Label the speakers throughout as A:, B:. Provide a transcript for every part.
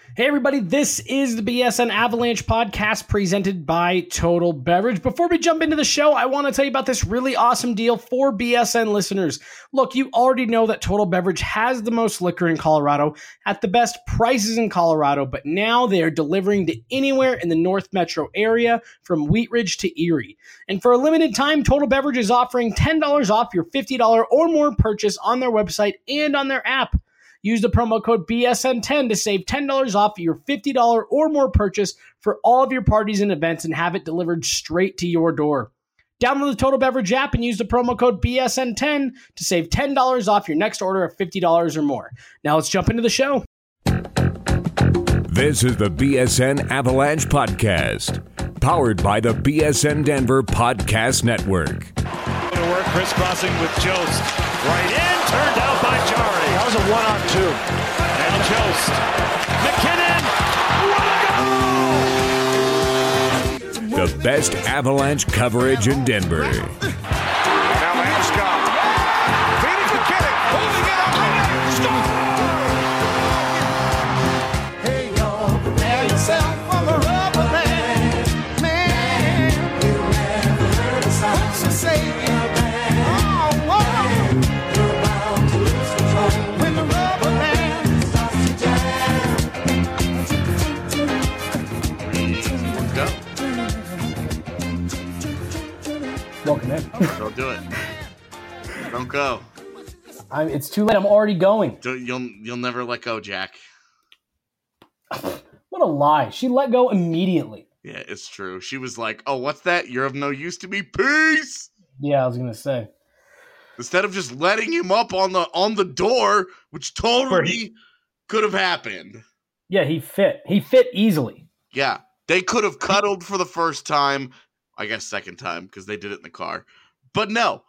A: Hey everybody, this is the BSN Avalanche podcast presented by Total Beverage. Before we jump into the show, I want to tell you about this really awesome deal for BSN listeners. Look, you already know that Total Beverage has the most liquor in Colorado at the best prices in Colorado, but now they are delivering to anywhere in the North Metro area from Wheat Ridge to Erie. And for a limited time, Total Beverage is offering $10 off your $50 or more purchase on their website and on their app. Use the promo code BSN10 to save $10 off your $50 or more purchase for all of your parties and events and have it delivered straight to your door. Download the Total Beverage app and use the promo code BSN10 to save $10 off your next order of $50 or more. Now let's jump into the show.
B: This is the BSN Avalanche Podcast, powered by the BSN Denver Podcast Network.
C: To work, crisscrossing with Jost. Right in, turned out by Jari.
D: That was a 1-on-2.
C: Now Jost. McKinnon.
B: The best Avalanche coverage in Denver.
D: Now Landeskog. Feeding McKinnon. Holding it up. Hey, y'all, prepare yourself for the rubber man. You never heard a sound so say
A: Welcome in.
E: Don't do it. Don't go.
A: It's too late. I'm already going.
E: You'll never let go, Jack.
A: What a lie. She let go immediately.
E: Yeah, it's true. She was like, "Oh, what's that? You're of no use to me. Peace."
A: Yeah, I was going to say.
E: Instead of just letting him up on the door, which totally could have happened.
A: Yeah, he fit. He fit easily.
E: Yeah, they could have cuddled for the first time. I guess second time because they did it in the car. But no.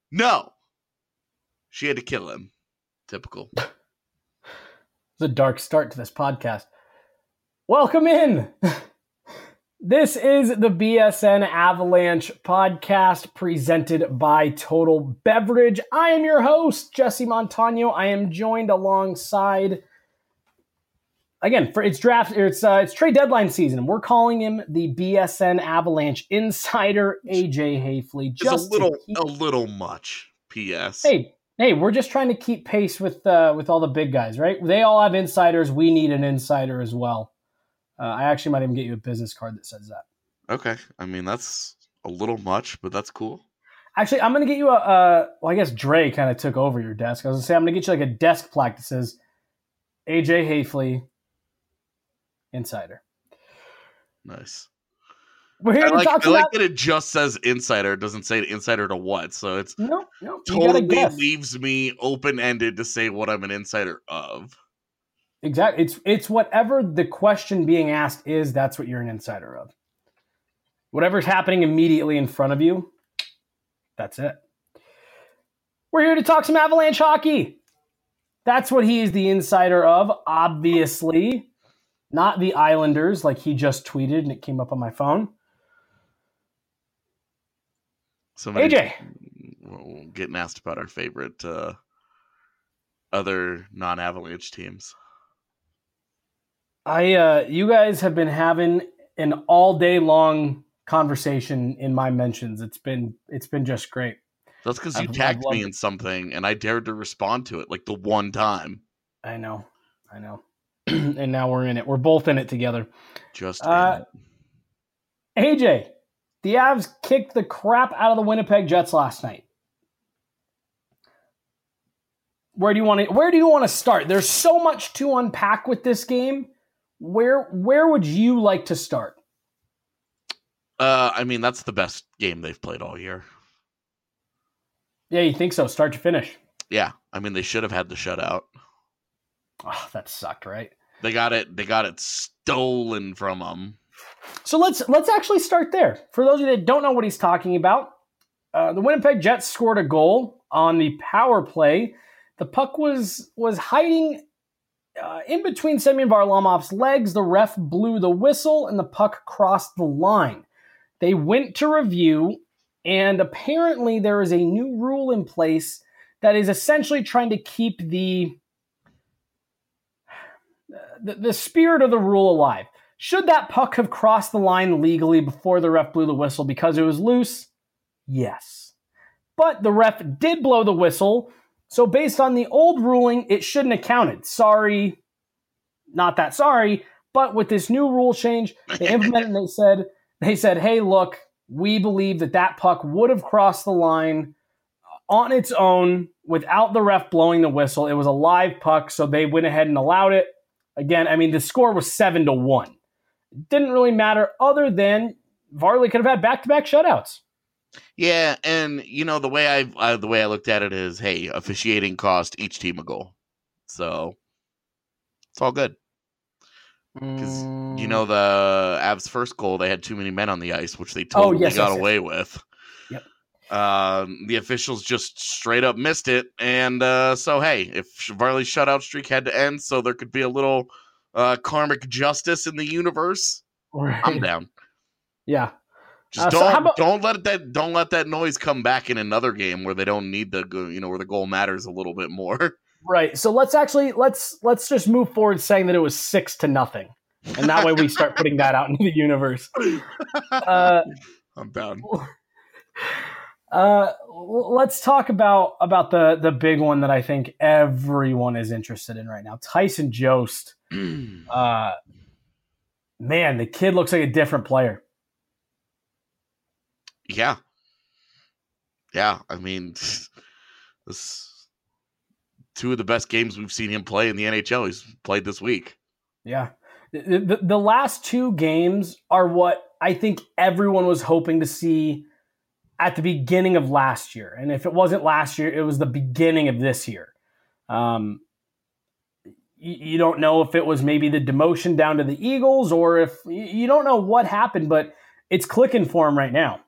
E: She had to kill him. Typical.
A: It's a dark start to this podcast. Welcome in. This is the BSN Avalanche podcast presented by Total Beverage. I am your host, Jesse Montano. I am joined alongside, again, it's trade deadline season. We're calling him the BSN Avalanche insider, AJ Haefele.
E: Just a little much. P.S.
A: Hey, we're just trying to keep pace with all the big guys, right? They all have insiders. We need an insider as well. I actually might even get you a business card that says that.
E: Okay. I mean, that's a little much, but that's cool.
A: Actually, I'm going to get you well, I guess Dre kind of took over your desk. I was going to say, I'm going to get you like a desk plaque that says AJ Haefele Insider.
E: Nice.
A: We're here to talk
E: I
A: about...
E: like that it just says insider. It doesn't say insider to what. So it's
A: no,
E: totally leaves me open-ended to say what I'm an insider of.
A: Exactly. It's whatever the question being asked is, that's what you're an insider of. Whatever's happening immediately in front of you, that's it. We're here to talk some Avalanche hockey. That's what he is the insider of, obviously. Not the Islanders, like he just tweeted and it came up on my phone. AJ.
E: Getting asked about our favorite other non-Avalanche teams.
A: You guys have been having an all day long conversation in my mentions. It's been just great.
E: That's because you tagged me in something and I dared to respond to it like the one time.
A: I know. And now we're in it. We're both in it together.
E: Just
A: AJ, the Avs kicked the crap out of the Winnipeg Jets last night. Where do you want to start? There's so much to unpack with this game. Where would you like to start?
E: I mean, that's the best game they've played all year.
A: Yeah, you think so? Start to finish.
E: Yeah, I mean, they should have had the shutout.
A: Oh, that sucked, right?
E: They got it stolen from them.
A: So let's actually start there. For those of you that don't know what he's talking about, the Winnipeg Jets scored a goal on the power play. The puck was hiding in between Semyon Varlamov's legs. The ref blew the whistle, and the puck crossed the line. They went to review, and apparently there is a new rule in place that is essentially trying to keep the the spirit of the rule alive. Should that puck have crossed the line legally before the ref blew the whistle because it was loose? Yes. But the ref did blow the whistle, so based on the old ruling, it shouldn't have counted. Sorry, not that sorry, but with this new rule change, they implemented and they said, hey, look, we believe that puck would have crossed the line on its own without the ref blowing the whistle. It was a live puck, so they went ahead and allowed it. Again, I mean, the score was 7-1. It didn't really matter other than Varley could have had back-to-back shutouts.
E: Yeah, and the way I looked at it is, hey, officiating cost each team a goal, so it's all good. Because the Avs' first goal, they had too many men on the ice, which they totally got away with.
A: Yep.
E: The officials just straight up missed it, and so hey, if Varley's shutout streak had to end, so there could be a little karmic justice in the universe, right. I'm down.
A: Yeah.
E: Just don't let that noise come back in another game where they don't need where the goal matters a little bit more.
A: Right. So let's just move forward saying that it was 6-0, and that way we start putting that out into the universe.
E: I'm down.
A: Let's talk about the big one that I think everyone is interested in right now. Tyson Jost. Man, the kid looks like a different player.
E: Yeah. Yeah, I mean, this two of the best games we've seen him play in the NHL. He's played this week.
A: Yeah. The last two games are what I think everyone was hoping to see at the beginning of last year. And if it wasn't last year, it was the beginning of this year. You don't know if it was maybe the demotion down to the Eagles or if you don't know what happened, but it's clicking for him right now.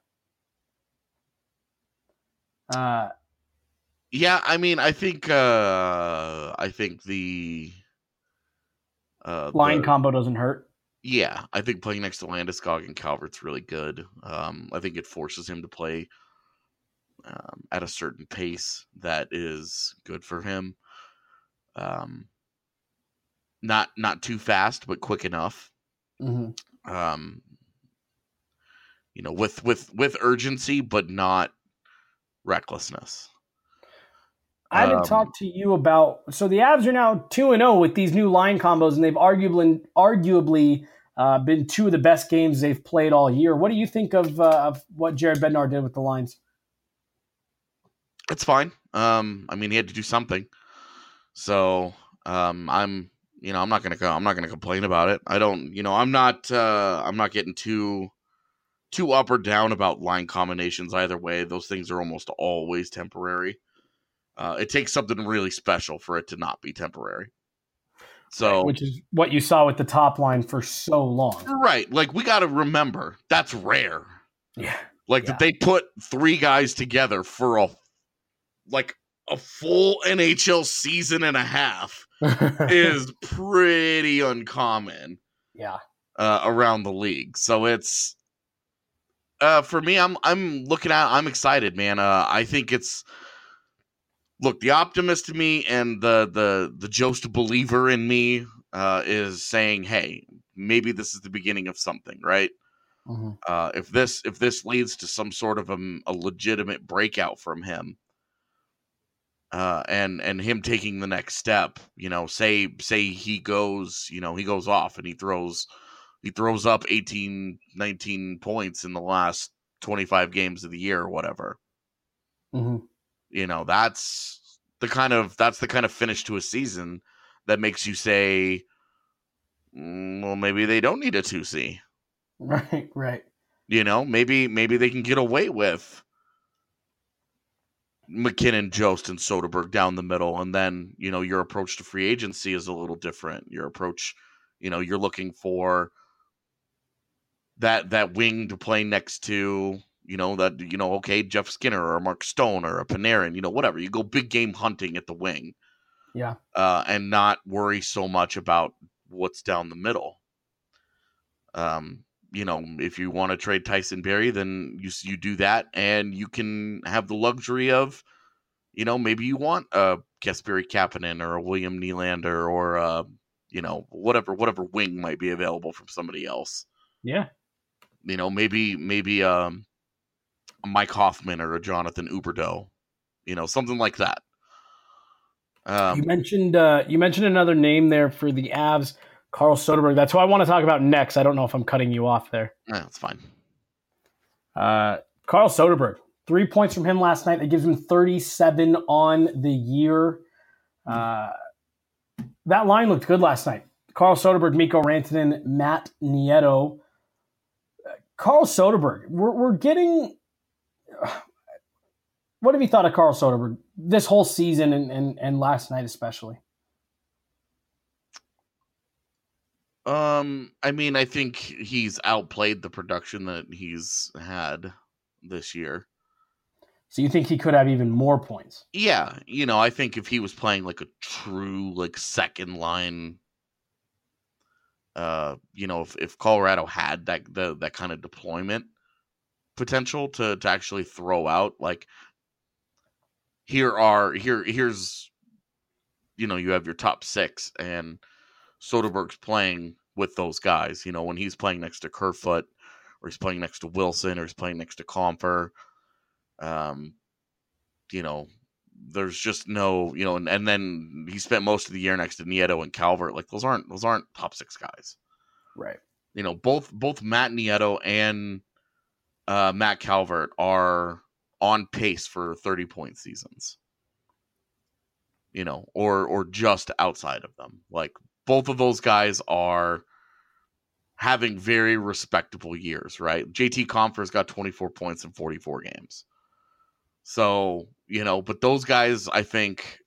E: Yeah, I mean, I think the
A: line combo doesn't hurt.
E: Yeah, I think playing next to Landeskog and Calvert's really good. I think it forces him to play at a certain pace that is good for him. Not too fast, but quick enough.
A: Mm-hmm.
E: With urgency, but not recklessness.
A: I haven't talked to you about. So the Avs are now 2-0 with these new line combos, and they've arguably been two of the best games they've played all year. What do you think of what Jared Bednar did with the lines?
E: It's fine. I mean, he had to do something. So I'm not gonna complain about it. I don't. I'm not getting too up or down about line combinations either way. Those things are almost always temporary. It takes something really special for it to not be temporary. So,
A: which is what you saw with the top line for so long.
E: Right. Like, we got to remember, that's rare.
A: Yeah.
E: That they put three guys together for a full NHL season and a half is pretty uncommon.
A: Yeah.
E: Around the league. So it's, for me, I'm excited, man. I think it's, look, the optimist in me and the Jost believer in me is saying, hey, maybe this is the beginning of something, right?
A: Mm-hmm.
E: If this leads to some sort of a legitimate breakout from him, and him taking the next step, say he goes off and he throws up 18, 19 points in the last 25 games of the year or whatever.
A: Mm-hmm.
E: That's the kind of finish to a season that makes you say, well, maybe they don't need a 2C.
A: Right.
E: Maybe they can get away with McKinnon, Jost, and Soderberg down the middle, and then your approach to free agency is a little different. Your approach, you're looking for that wing to play next to. Okay, Jeff Skinner or Mark Stone or a Panarin, whatever. You go big game hunting at the wing.
A: Yeah.
E: And not worry so much about what's down the middle. If you want to trade Tyson Barrie, then you do that, and you can have the luxury of, maybe you want a Kasperi Kapanen or a William Nylander or whatever wing might be available from somebody else.
A: Yeah.
E: Maybe a Mike Hoffman or a Jonathan Huberdeau, something like that.
A: You mentioned another name there for the Avs, Carl Soderberg. That's who I want to talk about next. I don't know if I'm cutting you off there.
E: That's fine.
A: Carl Soderberg, 3 points from him last night. That gives him 37 on the year. That line looked good last night. Carl Soderberg, Mikko Rantanen, Matt Nieto. Carl Soderberg, we're getting... What have you thought of Carl Soderberg this whole season and last night especially?
E: I think he's outplayed the production that he's had this year.
A: So you think he could have even more points?
E: Yeah, I think if he was playing like a true second line, if Colorado had that kind of deployment potential to actually throw out here's you have your top six and Soderberg's playing with those guys, when he's playing next to Kerfoot or he's playing next to Wilson or he's playing next to Compher, there's just no, and then he spent most of the year next to Nieto and Calvert. Those aren't top six guys.
A: Right.
E: Both Matt Nieto and Matt Calvert are on pace for 30-point seasons, or just outside of them. Both of those guys are having very respectable years, right? JT Compher's got 24 points in 44 games. So, but those guys, I think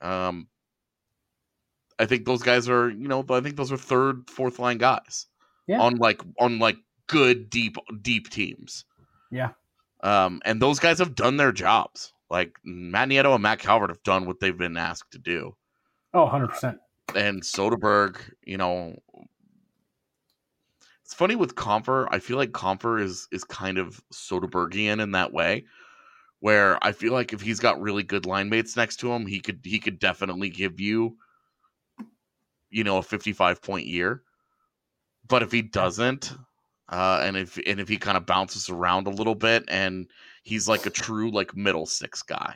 E: those guys are, I think those are third, fourth line guys.
A: Yeah.
E: On good, deep teams.
A: Yeah.
E: And those guys have done their jobs. Matt Nieto and Matt Calvert have done what they've been asked to do.
A: Oh, 100%.
E: And Soderberg, it's funny with Compher. I feel like Compher is kind of Soderbergian in that way, where I feel like if he's got really good line mates next to him, he could definitely give you, a 55-point year. But if he doesn't, and if he kind of bounces around a little bit and he's a true middle six guy,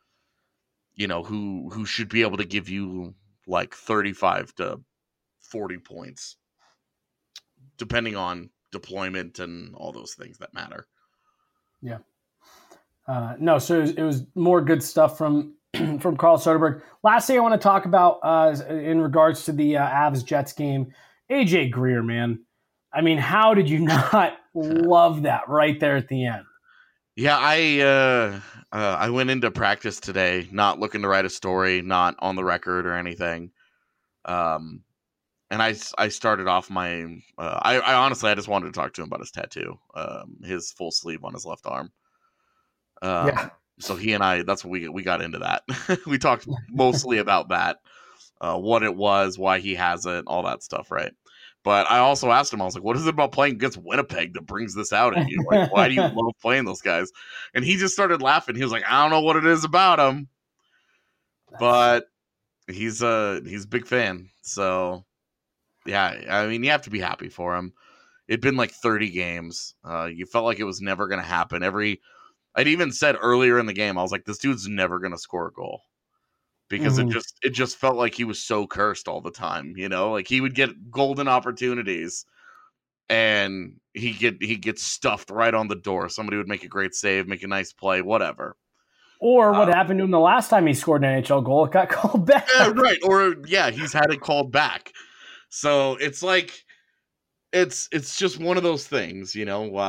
E: who should be able to give you 35 to 40 points, depending on deployment and all those things that matter.
A: Yeah. No, so it was more good stuff from Carl Soderberg. Last thing I want to talk about in regards to the Avs-Jets game, AJ Greer, man. I mean, how did you not love that right there at the end?
E: Yeah, I went into practice today not looking to write a story, not on the record or anything. And I started off my I honestly just wanted to talk to him about his tattoo, his full sleeve on his left arm.
A: Yeah.
E: So he and I, that's what we got into that. We talked mostly about that, what it was, why he has it, all that stuff, right? But I also asked him, I was like, what is it about playing against Winnipeg that brings this out in you? Why do you love playing those guys? And he just started laughing. He was like, I don't know what it is about him, but he's a big fan. So yeah, I mean, you have to be happy for him. It'd been 30 games. You felt like it was never going to happen. I'd even said earlier in the game, I was like, this dude's never going to score a goal. Because it just felt like he was so cursed all the time, he would get golden opportunities and he gets stuffed right on the door. Somebody would make a great save, make a nice play, whatever.
A: Or what happened to him the last time he scored an NHL goal, it got called back.
E: Yeah, right. Or he's had it called back. So it's it's just one of those things,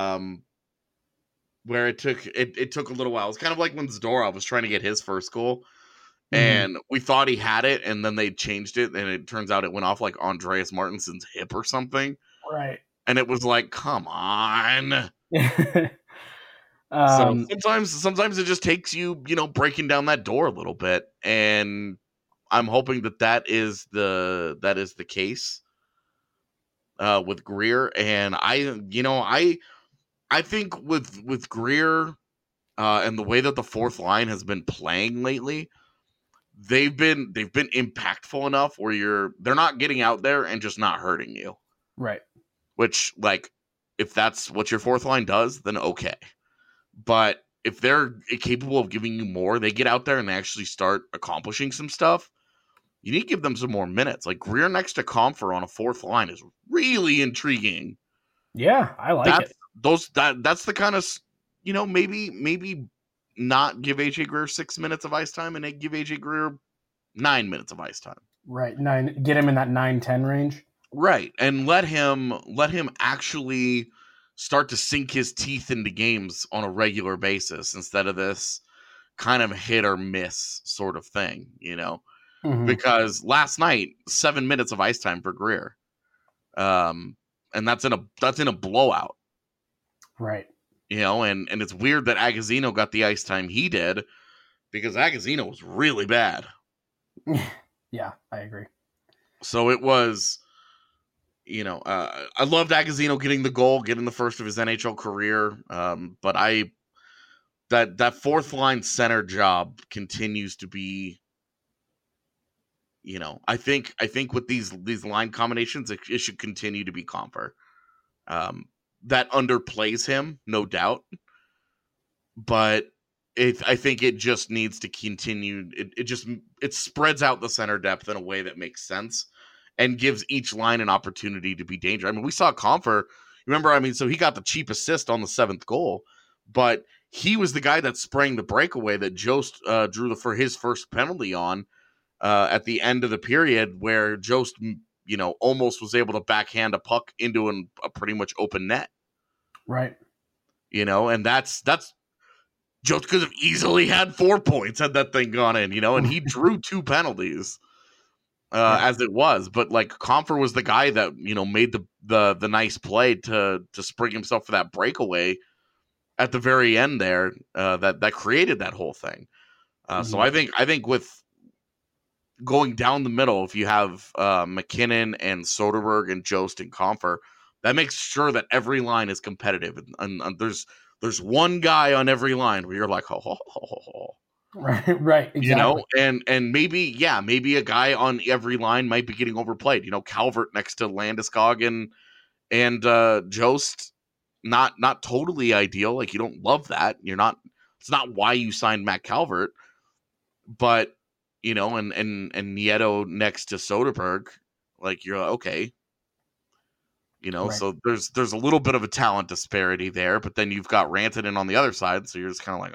E: where it took a little while. It's kind of like when Zadorov was trying to get his first goal. And we thought he had it, and then they changed it, and it turns out it went off Andreas Martinson's hip or something.
A: Right.
E: And it was come on.
A: So
E: sometimes it just takes you, breaking down that door a little bit. And I'm hoping that is the case with Greer. And I think with Greer and the way that the fourth line has been playing lately, they've been impactful enough where they're not getting out there and just not hurting you.
A: Right.
E: Which, like, if that's what your fourth line does, then okay. But if they're capable of giving you more, they get out there and they actually start accomplishing some stuff. You need to give them some more minutes. Like, Greer next to Compher on a fourth line is really intriguing.
A: Yeah, I like it.
E: That's the kind of, maybe not give AJ Greer 6 minutes of ice time and they give AJ Greer 9 minutes of ice time.
A: Right. Get him in that 9-10 range.
E: Right. And let him actually start to sink his teeth into games on a regular basis instead of this kind of hit or miss sort of thing,
A: Mm-hmm.
E: Because last night, 7 minutes of ice time for Greer. And that's in a blowout.
A: Right.
E: And it's weird that Agazino got the ice time he did because Agazino was really bad.
A: Yeah, I agree.
E: So it was, I loved Agazino getting the goal, getting the first of his NHL career. But that fourth line center job continues to be, I think with these line combinations, it should continue to be Compher. That underplays him, no doubt. But I think it just needs to continue. It spreads out the center depth in a way that makes sense and gives each line an opportunity to be dangerous. I mean, we saw Compher. Remember, so he got the cheap assist on the 7th goal, but he was the guy that sprang the breakaway that Jost drew for his first penalty on at the end of the period, where Jost, almost was able to backhand a puck into a pretty much open net.
A: Right.
E: And that's Jost could have easily had 4 points had that thing gone in, and he drew 2 penalties as it was. But like Compher was the guy that, made the nice play to spring himself for that breakaway at the very end there that created that whole thing. So I think with going down the middle, if you have McKinnon and Soderberg and Jost and Compher, that makes sure that every line is competitive. And there's one guy on every line where you're like,
A: Right, exactly.
E: And maybe a guy on every line might be getting overplayed. Calvert next to Landeskog and Jost, not totally ideal. Like, you don't love that. It's not why you signed Matt Calvert, but and Nieto next to Soderberg, like, you're like, okay. Right. So there's a little bit of a talent disparity there, but then you've got Rantanen on the other side, so you're just kind of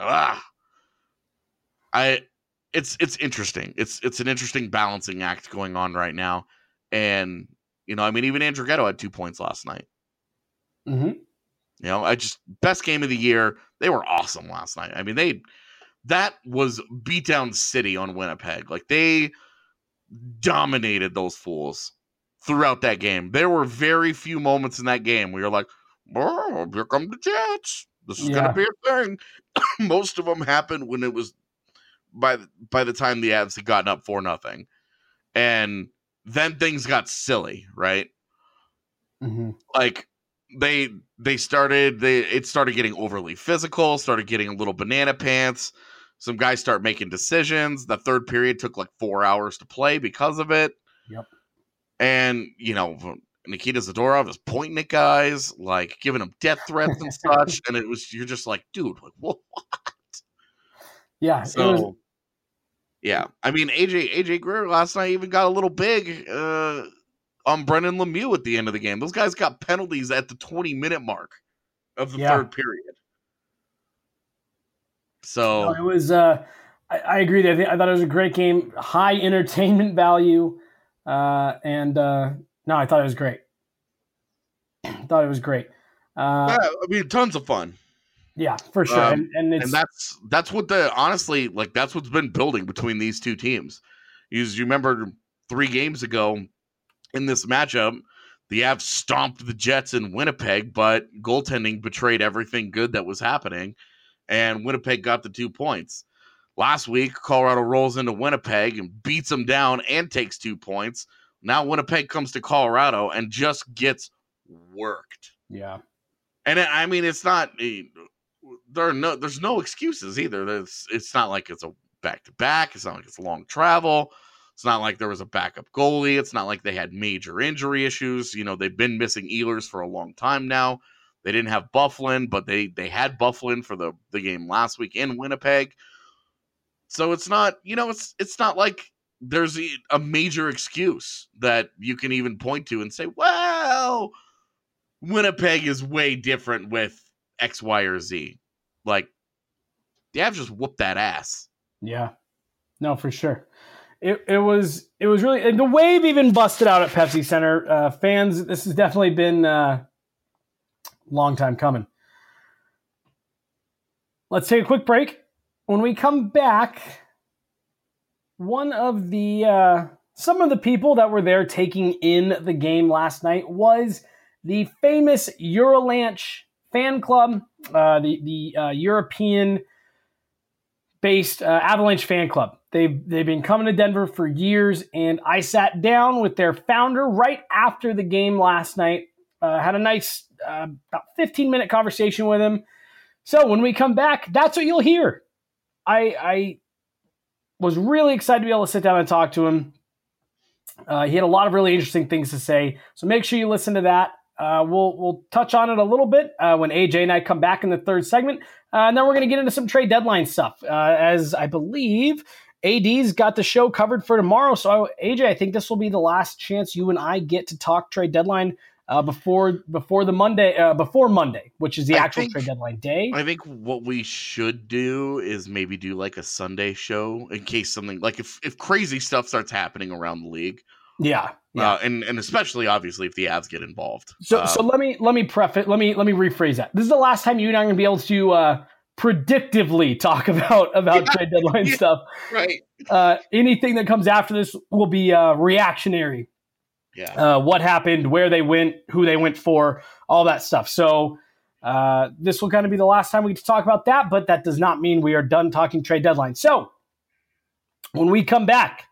E: like, it's interesting. It's an interesting balancing act going on right now, and even Andrew Ghetto had 2 points last night.
A: Mm-hmm.
E: Best game of the year. They were awesome last night. I mean, that was beatdown city on Winnipeg. Like, they dominated those fools throughout that game. There were very few moments in that game where you're like, oh, here come the Jets. This is going to be a thing. Most of them happened when it was by the time the Avs had gotten up 4-0. And then things got silly, right?
A: Mm-hmm.
E: Like, it started getting overly physical, started getting a little banana pants. Some guys start making decisions. The third period took like 4 hours to play because of it.
A: Yep.
E: And, Nikita Zadorov is pointing at guys, like giving them death threats and such. And you're just like, dude, like, what?
A: Yeah.
E: So, yeah. I mean, AJ Greer last night even got a little big on Brendan Lemieux at the end of the game. Those guys got penalties at the 20-minute mark of the third period. So
A: it was. I agree. I thought it was a great game, high entertainment value, and I thought it was great.
E: Yeah, I mean, tons of fun.
A: Yeah, for sure. And
E: that's what honestly, like, that's what's been building between these two teams. You remember 3 games ago in this matchup, the Avs stomped the Jets in Winnipeg, but goaltending betrayed everything good that was happening, and Winnipeg got the 2 points. Last week, Colorado rolls into Winnipeg and beats them down and takes 2 points. Now Winnipeg comes to Colorado and just gets worked.
A: Yeah.
E: And it's not there's no excuses either. It's not like it's a back-to-back. It's not like it's a long travel. It's not like there was a backup goalie. It's not like they had major injury issues. You know, they've been missing Ehlers for a long time now. They didn't have Byfuglien, but they had Byfuglien for the game last week in Winnipeg. So it's not, you know, it's not like there's a major excuse that you can even point to and say, well, Winnipeg is way different with X, Y, or Z. Like, the Avs just whooped that ass.
A: Yeah, no, for sure. It was really, and the wave even busted out at Pepsi Center. Fans, this has definitely been a long time coming. Let's take a quick break. When we come back, one of the some of the people that were there taking in the game last night was the famous Eurolanche fan club, the European-based Avalanche fan club. They've been coming to Denver for years, and I sat down with their founder right after the game last night. Had a nice about 15-minute conversation with him. So when we come back, that's what you'll hear. I was really excited to be able to sit down and talk to him. He had a lot of really interesting things to say, so make sure you listen to that. We'll touch on it a little bit when AJ and I come back in the third segment, and then we're going to get into some trade deadline stuff, as I believe AD's got the show covered for tomorrow. So AJ, I think this will be the last chance you and I get to talk trade deadline before Monday, which is the actual trade deadline day.
E: I think what we should do is maybe do like a Sunday show in case something like if crazy stuff starts happening around the league.
A: Yeah.
E: And especially obviously if the Avs get involved.
A: So let me rephrase that. This is the last time you and I are going to be able to predictively talk about trade deadline stuff.
E: Right.
A: Anything that comes after this will be reactionary.
E: Yeah.
A: What happened, where they went, who they went for, all that stuff. So this will kind of be the last time we get to talk about that, but that does not mean we are done talking trade deadline. So when we come back,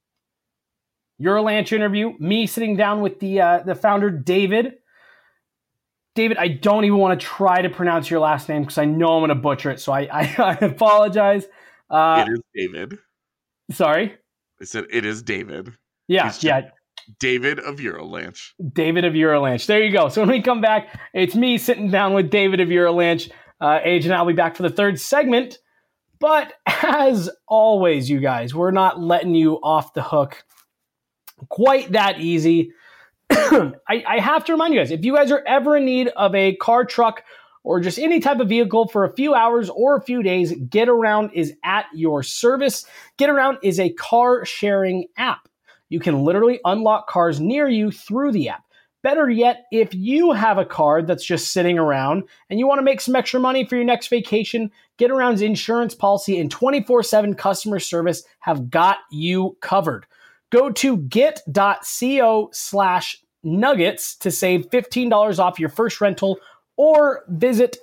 A: Eurolanche interview, me sitting down with the founder, David. David, I don't even want to try to pronounce your last name because I know I'm going to butcher it, so I apologize.
E: It is David.
A: Sorry?
E: I said it is David.
A: Yeah.
E: David of Eurolanche.
A: David of Eurolanche. There you go. So when we come back, it's me sitting down with David of Eurolanche. Age and I'll be back for the third segment. But as always, you guys, we're not letting you off the hook quite that easy. I have to remind you guys, if you guys are ever in need of a car, truck, or just any type of vehicle for a few hours or a few days, GetAround is at your service. GetAround is a car sharing app. You can literally unlock cars near you through the app. Better yet, if you have a car that's just sitting around and you want to make some extra money for your next vacation, GetAround's insurance policy and 24/7 customer service have got you covered. Go to get.co/nuggets to save $15 off your first rental, or visit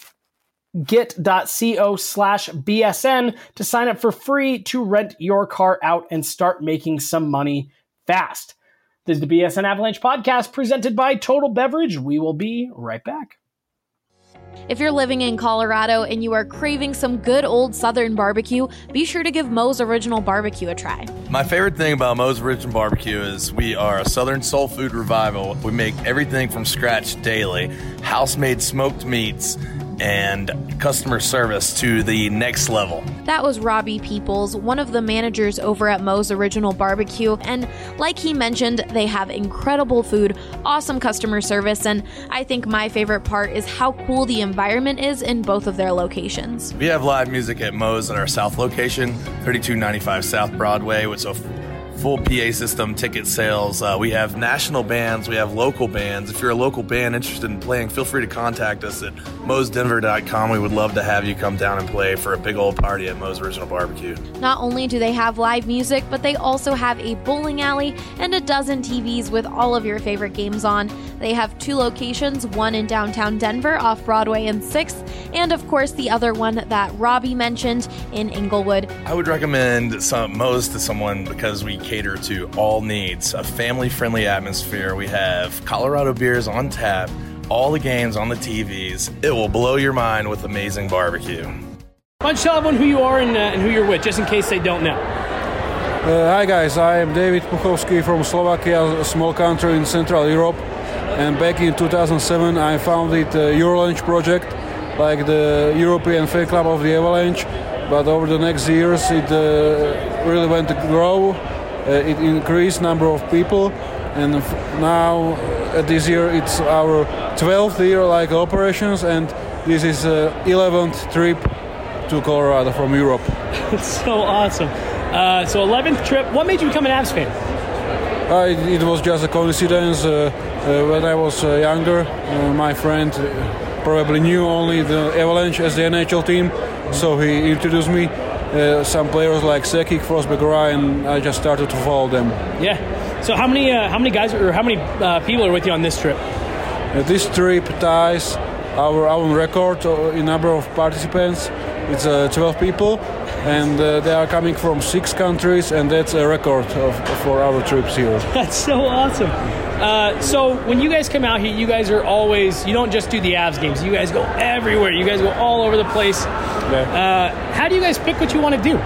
A: get.co/BSN to sign up for free to rent your car out and start making some money fast. This is the BSN Avalanche podcast presented by Total Beverage. We will be right back.
F: If you're living in Colorado and you are craving some good old Southern barbecue, be sure to give Moe's Original Barbecue a try.
G: My favorite thing about Moe's Original Barbecue is we are a Southern soul food revival. We make everything from scratch daily, house-made smoked meats, and customer service to the next level.
F: That was Robbie Peoples, one of the managers over at Moe's Original Barbecue, and like he mentioned, they have incredible food, awesome customer service, and I think my favorite part is how cool the environment is in both of their locations.
G: We have live music at Moe's at our South location, 3295 South Broadway, with a full PA system, ticket sales. We have national bands. We have local bands. If you're a local band interested in playing, feel free to contact us at moesdenver.com. We would love to have you come down and play for a big old party at Moe's Original Barbecue.
F: Not only do they have live music, but they also have a bowling alley and a dozen TVs with all of your favorite games on. They have 2 locations, one in downtown Denver off Broadway and 6th, and of course the other one that Robbie mentioned in Inglewood.
G: I would recommend Moe's to someone because we cater to all needs, a family-friendly atmosphere. We have Colorado beers on tap, all the games on the TVs. It will blow your mind with amazing barbecue.
A: Why don't you tell everyone who you are and who you're with, just in case they don't know.
H: Hi guys, I am David Puchovsky from Slovakia, a small country in Central Europe. And back in 2007 I founded the Eurolaunch project, like the European fan club of the Avalanche. But over the next years it really went to grow. It increased number of people. And now this year it's our 12th year like operations, and this is 11th trip to Colorado from Europe.
A: It's so awesome. So 11th trip. What made you become an Avs fan?
H: It was just a coincidence. When I was younger, my friend probably knew only the Avalanche as the NHL team, so he introduced me some players like Sekik, Forsberg, and I just started to follow them.
A: Yeah. So how many guys or how many people are with you on this trip?
H: This trip ties our own record in number of participants. It's 12 people, and they are coming from 6 countries, and that's a record for our trips here.
A: That's so awesome. So when you guys come out here, you guys are always, you don't just do the Avs games, you guys go everywhere. You guys go all over the place. Yeah. How do you guys pick what you want to do?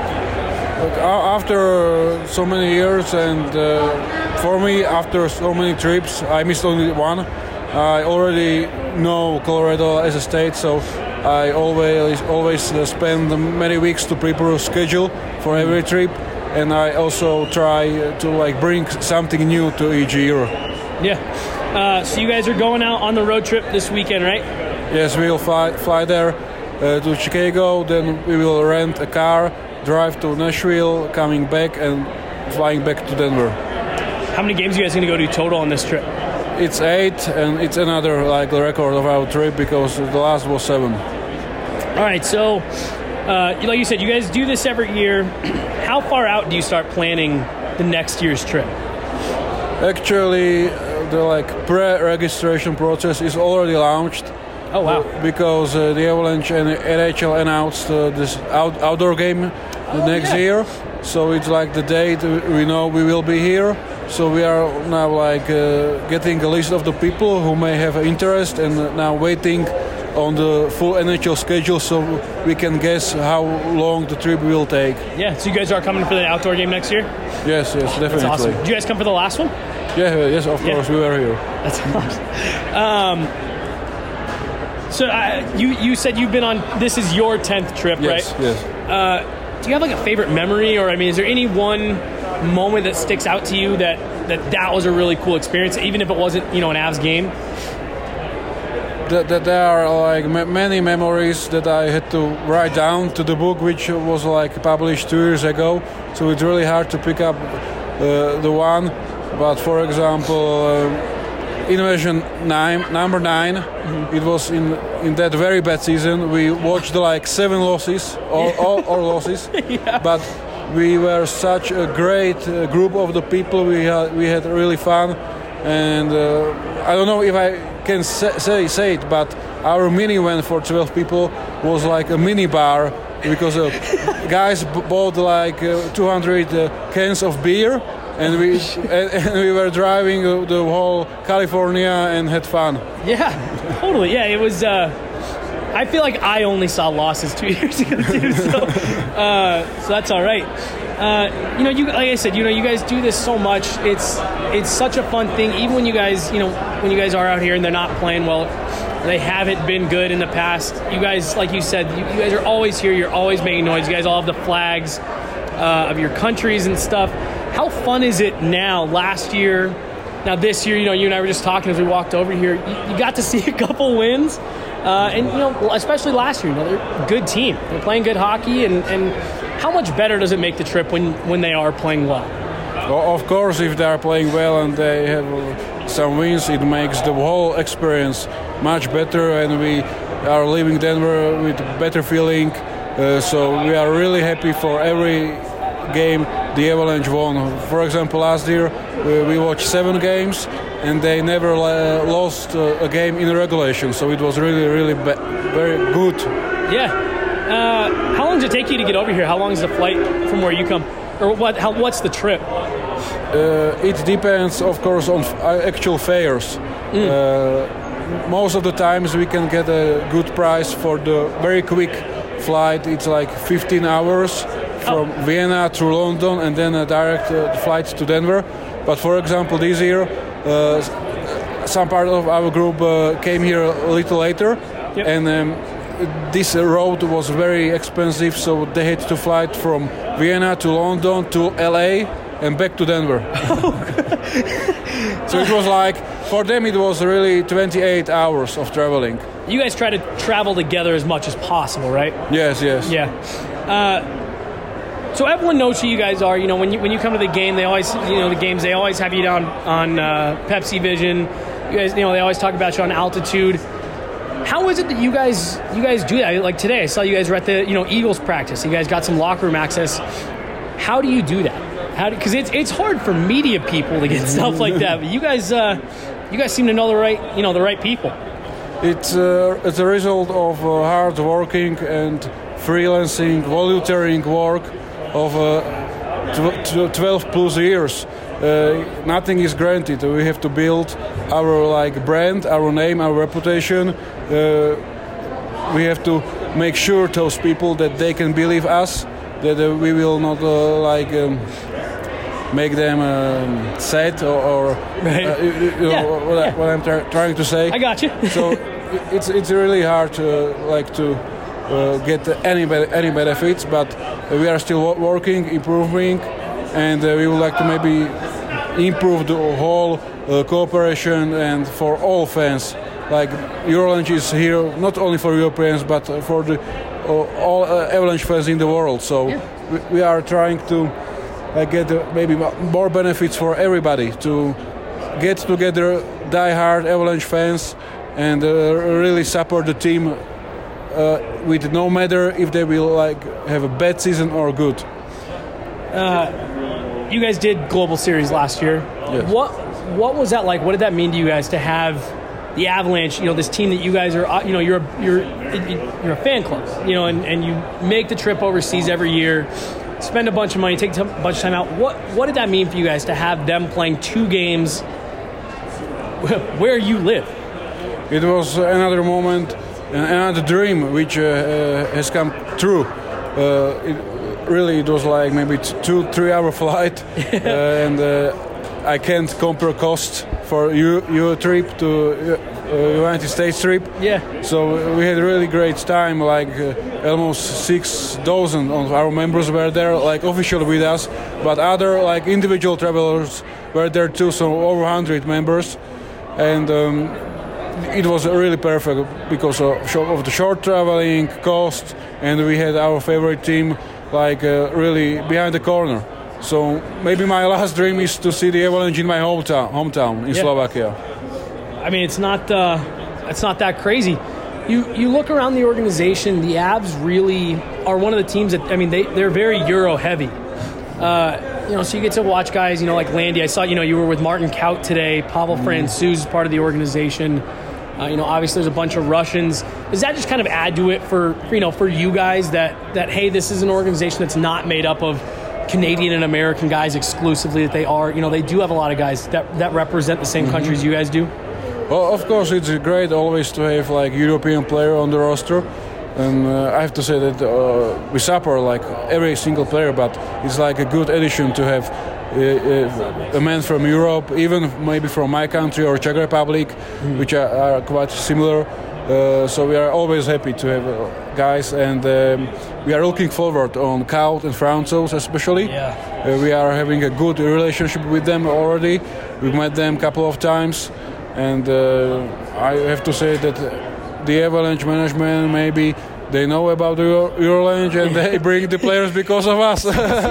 H: After so many years, and for me, after so many trips, I missed only one. I already know Colorado as a state, so I always spend many weeks to prepare a schedule for every trip, and I also try to bring something new to each year.
A: Yeah. So you guys are going out on the road trip this weekend, right?
H: Yes, we'll fly there to Chicago, then we will rent a car, drive to Nashville, coming back and flying back to Denver.
A: How many games are you guys going to go to total on this trip?
H: It's 8, and it's another record of our trip because the last was 7.
A: All right, so like you said, you guys do this every year. How far out do you start planning the next year's trip?
H: Actually, the pre-registration process is already launched.
A: Oh wow!
H: Because the Avalanche and NHL announced this outdoor game next year, so it's the date we know we will be here. So we are now getting a list of the people who may have interest, and now waiting on the full NHL schedule so we can guess how long the trip will take.
A: Yeah, so you guys are coming for the outdoor game next year?
H: Yes, definitely.
A: That's awesome. Did you guys come for the last one?
H: Yes, of course, we were here.
A: That's awesome. So you said you've been on, this is your 10th trip, right?
H: Yes.
A: Do you have a favorite memory, or is there any one moment that sticks out to you that was a really cool experience, even if it wasn't, an Avs game?
H: There are many memories that I had to write down to the book, which was published 2 years ago. So it's really hard to pick up the one. But for example, Invasion number 9. Mm-hmm. It was in that very bad season. We watched 7 losses, all losses. Yeah. But we were such a great group of the people. We had really fun, and I don't know if I can say it, but our minivan for 12 people was a mini bar, because guys bought 200 cans of beer, and we were driving the whole California and had fun.
A: Yeah, totally. Yeah, it was. I feel like I only saw losses 2 years ago too, so that's all right. You like I said, you guys do this so much. It's such a fun thing. Even when you guys, when you guys are out here and they're not playing well, they haven't been good in the past. You guys, like you said, you guys are always here. You're always making noise. You guys all have the flags of your countries and stuff. How fun is it now? Last year, now this year, you and I were just talking as we walked over here. You got to see a couple wins. And especially last year, they're a good team. They're playing good hockey, and how much better does it make the trip when they are playing well?
H: Well, of course, if they are playing well and they have some wins, it makes the whole experience much better, and we are leaving Denver with a better feeling. So we are really happy for every game the Avalanche won. For example, last year we watched 7 games, and they never lost a game in regulation, so it was really very good.
A: Yeah. How long does it take you to get over here? How long is the flight from where you come, or what's the trip?
H: It depends, of course, on actual fares. Most of the times we can get a good price for the very quick flight. It's like 15 hours from Vienna through London and then a direct flight to Denver. But for example, this year, some part of our group came here a little later, and this road was very expensive, so they had to fly from Vienna to London to LA and back to Denver. So it was like, for them it was really 28 hours of traveling.
A: You guys try to travel together as much as possible, right?
H: Yes.
A: Yeah. So everyone knows who you guys are. You know, when you come to the game, they always, the games, they always have you down on Pepsi Vision. You guys, they always talk about you on Altitude. How is it that you guys do that? Like today, I saw you guys were at the Eagles practice. You guys got some locker room access. How do you do that? Because it's hard for media people to get stuff like that. But you guys seem to know the right people.
H: It's a result of hard working and freelancing, volunteering work of 12 plus years. Nothing is granted. We have to build our brand, our name, our reputation. We have to make sure those people that they can believe us, that we will not make them sad or what I'm trying to say.
A: I got you.
H: So it's really hard to get any benefits, but we are still working, improving, and we would like to maybe improve the whole cooperation and for all fans. Like Eurolanche is here not only for Europeans but for all Avalanche fans in the world. So we are trying to get maybe more benefits for everybody, to get together die-hard Avalanche fans and really support the team with no matter if they will have a bad season or good.
A: You guys did Global Series last year.
H: Yes.
A: What was that like? What did that mean to you guys to have the Avalanche? This team that you guys are. You're a fan club. And you make the trip overseas every year, spend a bunch of money, take a bunch of time out. What did that mean for you guys to have them playing 2 games where you live?
H: It was another moment, another dream which has come true. It was like maybe 2-3 hour flight, and I can't compare cost for your trip to United States trip.
A: Yeah.
H: So we had a really great time. Almost 6,000 of our members were there, officially with us, but other individual travelers were there too. So over 100 members, and it was really perfect because of the short traveling cost, and we had our favorite team really behind the corner. So maybe my last dream is to see the Avalanche in my hometown in Slovakia.
A: I mean, it's not that crazy. You look around the organization, the Avs really are one of the teams that, they're very Euro heavy. So you get to watch guys, like Landy. I saw, you were with Martin Kaut today. Pavel Francouz is part of the organization. Obviously there's a bunch of Russians. Does that just kind of add to it for you guys that hey, this is an organization that's not made up of Canadian and American guys exclusively, that they are, they do have a lot of guys that represent the same countries you guys do?
H: Well, of course, it's great always to have European player on the roster. And I have to say that we support every single player, but it's a good addition to have a man from Europe, even maybe from my country or Czech Republic, which are quite similar. So we are always happy to have guys, and we are looking forward on Kaut and Francouz especially.
A: Yeah.
H: We are having a good relationship with them already. We've met them a couple of times, and I have to say that the Avalanche management, maybe they know about Eurolanche and they bring the players because of us.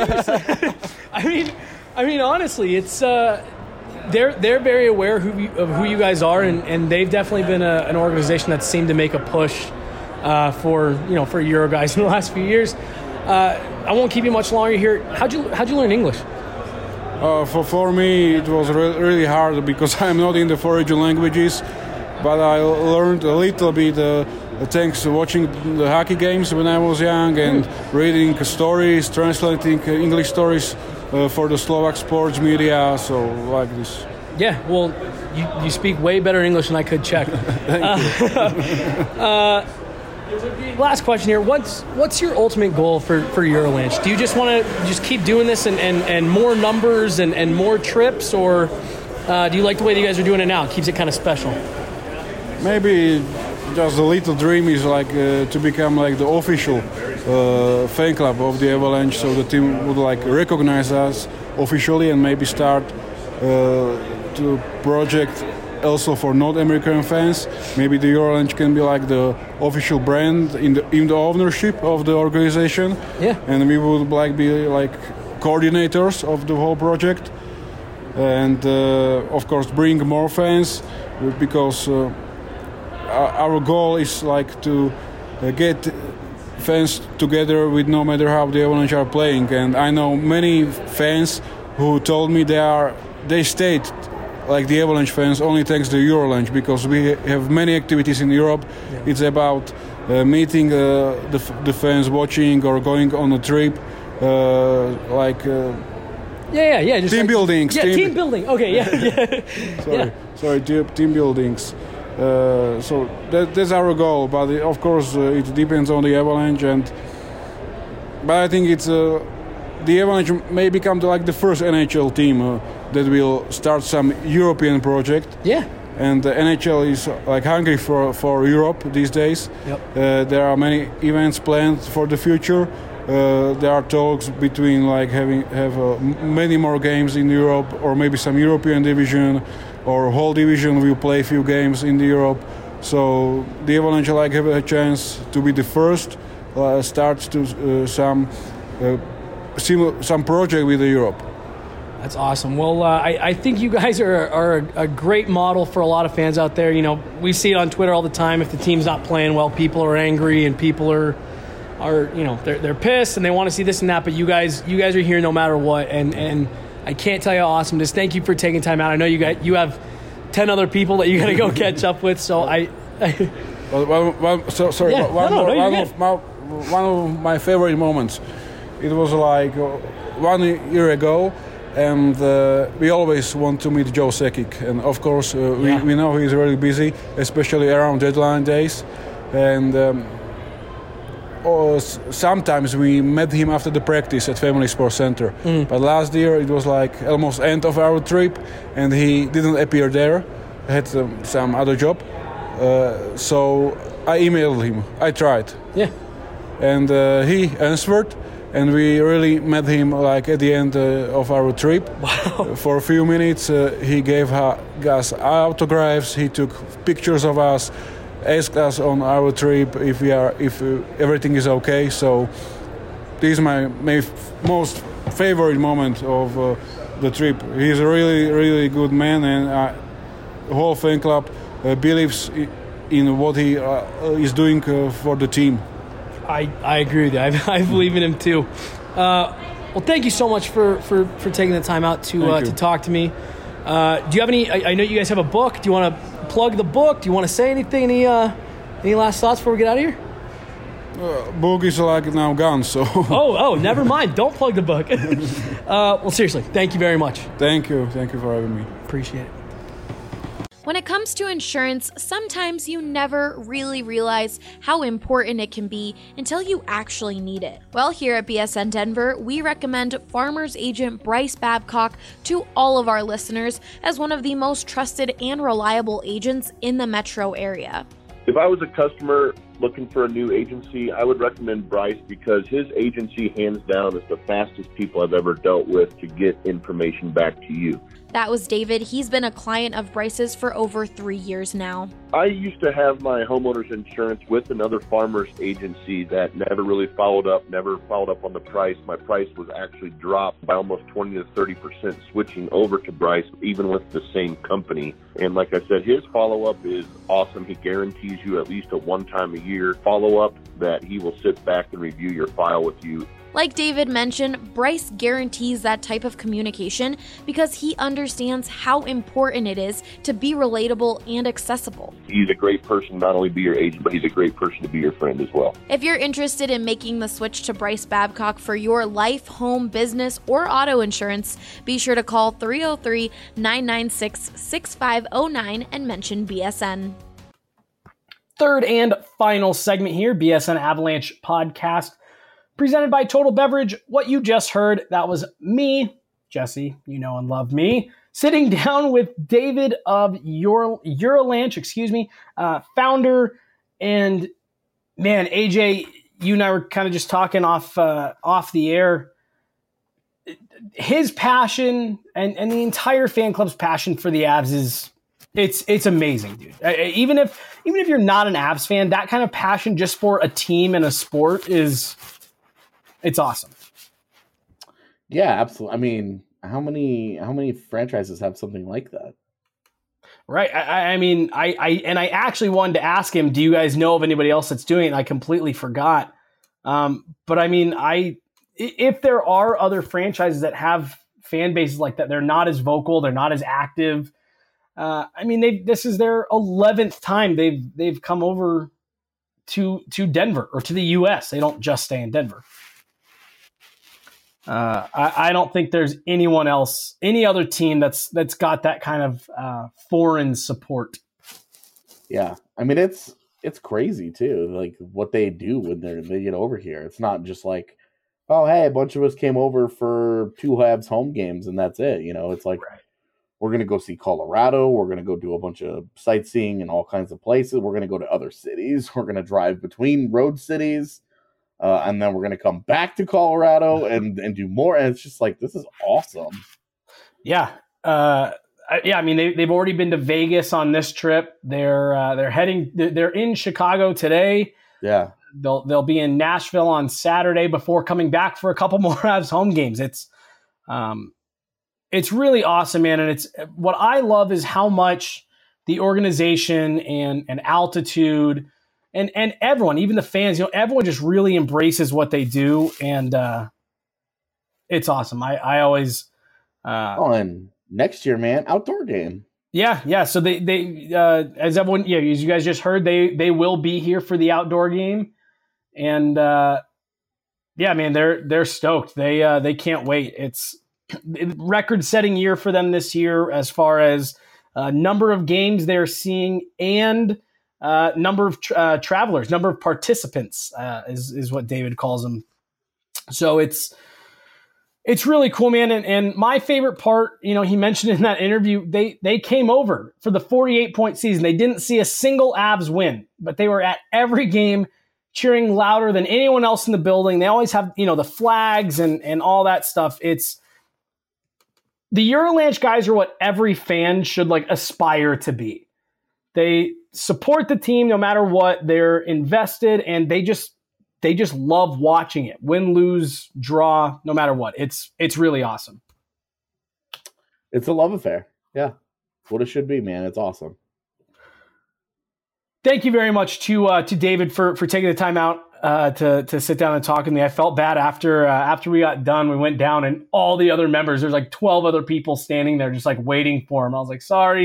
A: I mean, honestly, it's they're very aware of who you guys are, and they've definitely been an organization that seemed to make a push for Euro guys in the last few years. I won't keep you much longer here. How'd you learn English?
H: For me, it was really hard because I'm not in the 4 region languages, but I learned a little bit thanks to watching the hockey games when I was young and reading stories, translating English stories for the Slovak sports media, so like this.
A: Yeah, well, you speak way better English than I could Czech.
H: Thank you.
A: Last question here. What's your ultimate goal for Eurolanch? Do you just want to just keep doing this and more numbers and more trips, or do you like the way that you guys are doing it now? It keeps it kind of special.
H: Maybe just a little dream is like to become like the official fan club of the Avalanche, so the team would like recognize us officially and maybe start to project also for North American fans. Maybe the Eurolanch can be like the official brand in the ownership of the organization.
A: Yeah.
H: And we would like be like coordinators of the whole project, and of course bring more fans, because our goal is like to get fans together with no matter how the Avalanche are playing. And I know many fans who told me they stayed like the Avalanche fans only thanks to Eurolanch, because we have many activities in Europe. Yeah. It's about meeting the fans, watching or going on a trip, just team buildings.
A: Yeah, team building. Okay, yeah.
H: Sorry, team buildings. So that's our goal, but of course it depends on the Avalanche. But I think it's the Avalanche may become like the first NHL team that will start some European project.
A: Yeah.
H: And the NHL is like hungry for Europe these days.
A: Yep.
H: There are many events planned for the future. There are talks between like have many more games in Europe, or maybe some European division, or whole division will play a few games in Europe. So the Avalanche like have a chance to be the first start to some project with Europe.
A: That's awesome. Well, I think you guys are a great model for a lot of fans out there. You know, we see it on Twitter all the time. If the team's not playing well, people are angry and people are they're pissed and they want to see this and that. But you guys are here no matter what. And I can't tell you how awesome it is. Thank you for taking time out. I know you have 10 other people that you got to go catch up with. So
H: one of my favorite moments. It was like 1 year ago. And we always want to meet Joe Sakic, and of course we know he's really busy, especially around deadline days. And sometimes we met him after the practice at Family Sports Center. But last year it was like almost end of our trip, and he didn't appear there. He had some other job, so I emailed him. I tried.
A: Yeah.
H: And he answered. And we really met him like at the end of our trip.
A: Wow.
H: For a few minutes, he gave us autographs. He took pictures of us, asked us on our trip if everything is okay. So this is my most favorite moment of the trip. He's a really, really good man, and the whole fan club believes in what he is doing for the team.
A: I agree with you. I believe in him too. Well, thank you so much for taking the time out to talk to me. Do you have any? I know you guys have a book. Do you want to plug the book? Do you want to say anything? Any last thoughts before we get out of here?
H: Book is like now gone. So.
A: Oh, never mind. Don't plug the book. Well, seriously, thank you very much.
H: Thank you for having me.
A: Appreciate it.
F: When it comes to insurance, sometimes you never really realize how important it can be until you actually need it. Well, here at BSN Denver, we recommend Farmers Agent Bryce Babcock to all of our listeners as one of the most trusted and reliable agents in the metro area.
I: If I was a customer looking for a new agency, I would recommend Bryce, because his agency, hands down, is the fastest people I've ever dealt with to get information back to you.
F: That was David. He's been a client of Bryce's for over 3 years now.
I: I used to have my homeowner's insurance with another farmer's agency that never really followed up on the price. My price was actually dropped by almost 20 to 30% switching over to Bryce, even with the same company. And like I said, his follow-up is awesome. He guarantees you at least a one-time-a-year follow-up that he will sit back and review your file with you.
F: Like David mentioned, Bryce guarantees that type of communication because he understands how important it is to be relatable and accessible.
I: He's a great person, not only be your agent, but he's a great person to be your friend as well.
F: If you're interested in making the switch to Bryce Babcock for your life, home, business, or auto insurance, be sure to call 303-996-6509 and mention BSN.
A: third and final segment here, BSN Avalanche podcast, presented by Total Beverage. What you just heard, that was me, Jesse, you know and love me, sitting down with David of Eurolanche, founder. And man, AJ, you and I were kind of just talking off the air. His passion and the entire fan club's passion for the Avs is it's amazing, dude. Even if you're not an Avs fan, that kind of passion just for a team and a sport it's awesome.
J: Yeah, absolutely. I mean, how many franchises have something like that?
A: Right. I actually wanted to ask him, do you guys know of anybody else that's doing it? And I completely forgot. But I mean, if there are other franchises that have fan bases like that, they're not as vocal, they're not as active. This is their 11th time they've come over to Denver or to the U.S. They don't just stay in Denver. I don't think there's anyone else, any other team that's got that kind of foreign support.
J: Yeah, I mean it's crazy too, like what they do when they get over here. It's not just like, oh hey, a bunch of us came over for 2 Habs home games and that's it. You know, it's like we're gonna go see Colorado. We're gonna go do a bunch of sightseeing in all kinds of places. We're gonna go to other cities. We're gonna drive between road cities. And then we're going to come back to Colorado and do more. And it's just like, this is awesome.
A: Yeah. I mean, they've already been to Vegas on this trip. They're in Chicago today.
J: Yeah.
A: They'll be in Nashville on Saturday before coming back for a couple more Avs home games. It's really awesome, man. And what I love is how much the organization and Altitude and everyone, even the fans, everyone just really embraces what they do, and it's awesome. I always
J: and next year, man, outdoor game.
A: Yeah. So they as everyone, as you guys just heard, they will be here for the outdoor game, and man, they're stoked. They can't wait. It's record-setting year for them this year as far as number of games they're seeing and number of travelers, number of participants is what David calls them. So it's really cool, man. And my favorite part, he mentioned in that interview, they came over for the 48-point season. They didn't see a single Avs win, but they were at every game cheering louder than anyone else in the building. They always have, the flags and all that stuff. It's the Eurolanche guys are what every fan should aspire to be. They support the team no matter what. They're invested, and they just love watching it. Win, lose, draw, no matter what. It's really awesome.
J: It's a love affair. Yeah. What it should be, man. It's awesome.
A: Thank you very much to David for taking the time out to sit down and talk with me. I felt bad after we got done. We went down, and all the other members, there's 12 other people standing there just waiting for him. I was like, sorry.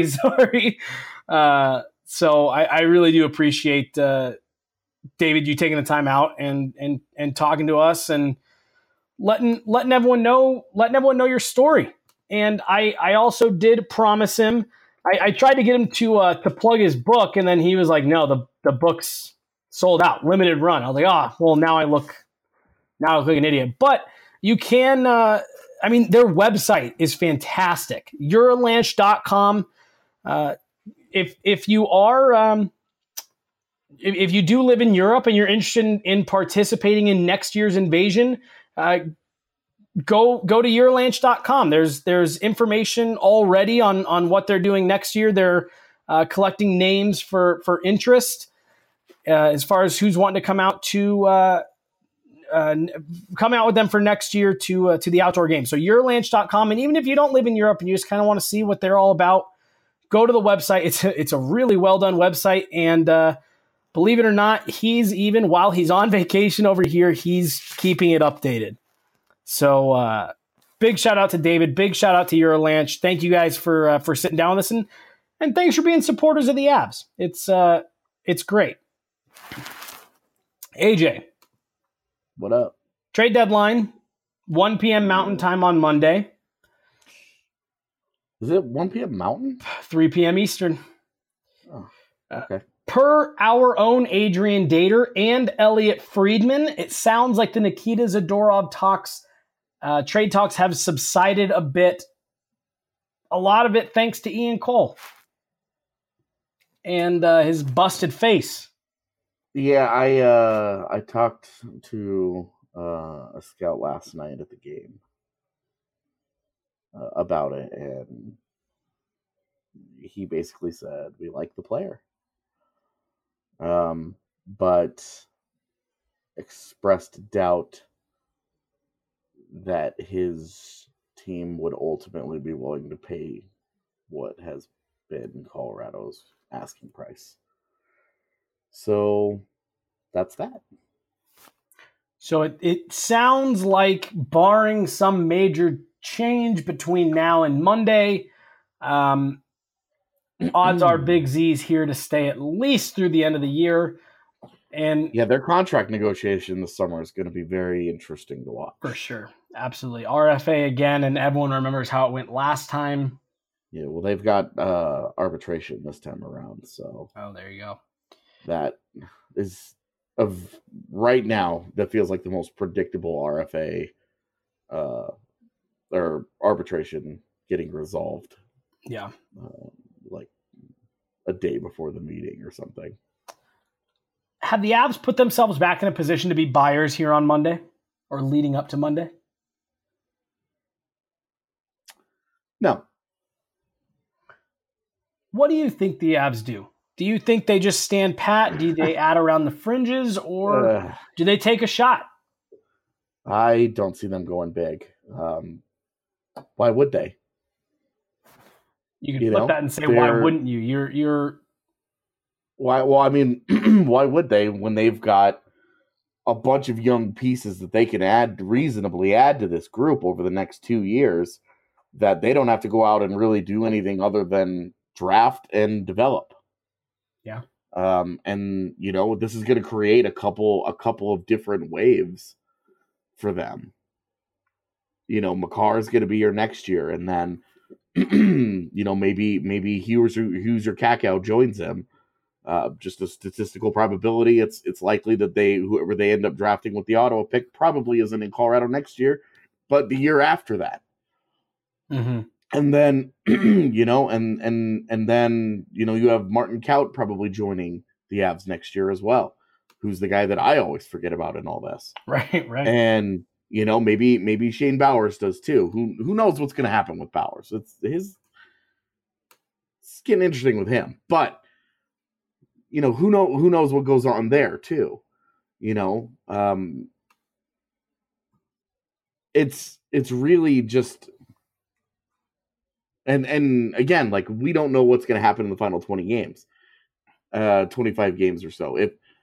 A: So I really do appreciate David, you taking the time out and talking to us and letting everyone know your story. And I also did promise him. I tried to get him to plug his book, and then he was like, "No, the book's sold out, limited run." I was like, well, now I look like an idiot. But you can. Their website is fantastic. Eurolanche.com. If you are if you do live in Europe and you're interested in participating in next year's invasion, go to Eurolanche.com. There's information already on what they're doing next year. They're collecting names for interest as far as who's wanting to come out with them for next year to the outdoor game. So Eurolanche.com. And even if you don't live in Europe and you just kind of want to see what they're all about, go to the website. It's a really well done website, and believe it or not, while he's on vacation over here, he's keeping it updated. So big shout out to David. Big shout out to Eurolanche. Thank you guys for sitting down with us, and thanks for being supporters of the Avs. It's great. AJ,
J: what up?
A: Trade deadline, 1 p.m. Mountain Time on Monday.
J: Is it 1 p.m. Mountain?
A: 3 p.m. Eastern.
J: Oh, okay.
A: per our own Adrian Dater and Elliot Friedman, it sounds like the Nikita Zadorov trade talks have subsided a bit. A lot of it thanks to Ian Cole and his busted face.
J: Yeah, I talked to a scout last night at the game about it, and he basically said we like the player, but expressed doubt that his team would ultimately be willing to pay what has been Colorado's asking price. So that's that.
A: So it sounds like, barring some major change between now and Monday, odds are Big Z's here to stay at least through the end of the year. And
J: yeah, their contract negotiation this summer is going to be very interesting to watch.
A: For sure. Absolutely. RFA again, and everyone remembers how it went last time.
J: Yeah, well, they've got arbitration this time around. So
A: there you go.
J: That is, of right now, that feels like the most predictable RFA or arbitration getting resolved.
A: Yeah.
J: Like a day before the meeting or something.
A: Have the Avs put themselves back in a position to be buyers here on Monday or leading up to Monday?
J: No.
A: What do you think the Avs do? Do you think they just stand pat? Do they add around the fringes, or do they take a shot?
J: I don't see them going big. Why would they?
A: You could flip that and say, why wouldn't you? You're
J: Why? Well, I mean, why would they when they've got a bunch of young pieces that they can reasonably add to this group over the next 2 years, that they don't have to go out and really do anything other than draft and develop.
A: Yeah.
J: And this is going to create a couple of different waves for them. Makar is going to be here next year, and then maybe Hughes or Kakao joins him. Just a statistical probability, it's likely that whoever they end up drafting with the Ottawa pick probably isn't in Colorado next year, but the year after that.
A: Mm-hmm.
J: And then, and then, you have Martin Kaut probably joining the Avs next year as well, who's the guy that I always forget about in all this.
A: Right.
J: And, maybe Shane Bowers does too. Who knows what's going to happen with Bowers? It's getting interesting with him, but who knows what goes on there too. It's really just, and again, like, we don't know what's going to happen in the final 20 games, 25 games or so.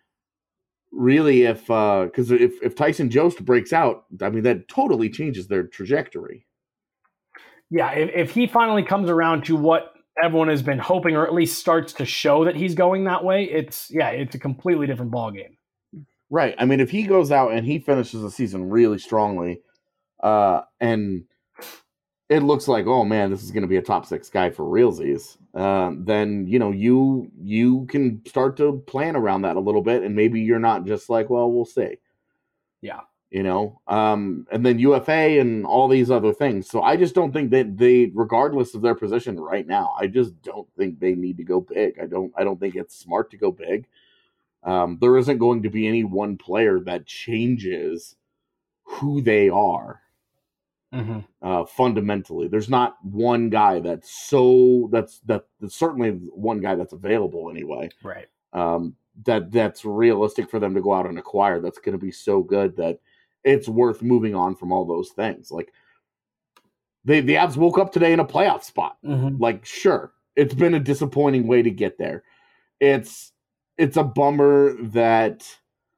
J: Because if Tyson Jost breaks out, I mean, that totally changes their trajectory.
A: Yeah. If he finally comes around to what everyone has been hoping, or at least starts to show that he's going that way, it's a completely different ballgame.
J: Right. I mean, if he goes out and he finishes the season really strongly, and it looks like, oh man, this is going to be a top 6 guy for realsies, then, you can start to plan around that a little bit, and maybe you're not just like, well, we'll see.
A: Yeah.
J: And then UFA and all these other things. So I just don't think that they, regardless of their position right now, I just don't think they need to go big. I don't think it's smart to go big. There isn't going to be any one player that changes who they are.
A: Mm-hmm.
J: Fundamentally, there's not one guy that's certainly one guy that's available anyway.
A: Right.
J: That's realistic for them to go out and acquire. That's going to be so good that it's worth moving on from all those things. Like, the Avs woke up today in a playoff spot.
A: Mm-hmm.
J: Like, sure, it's been a disappointing way to get there. It's a bummer that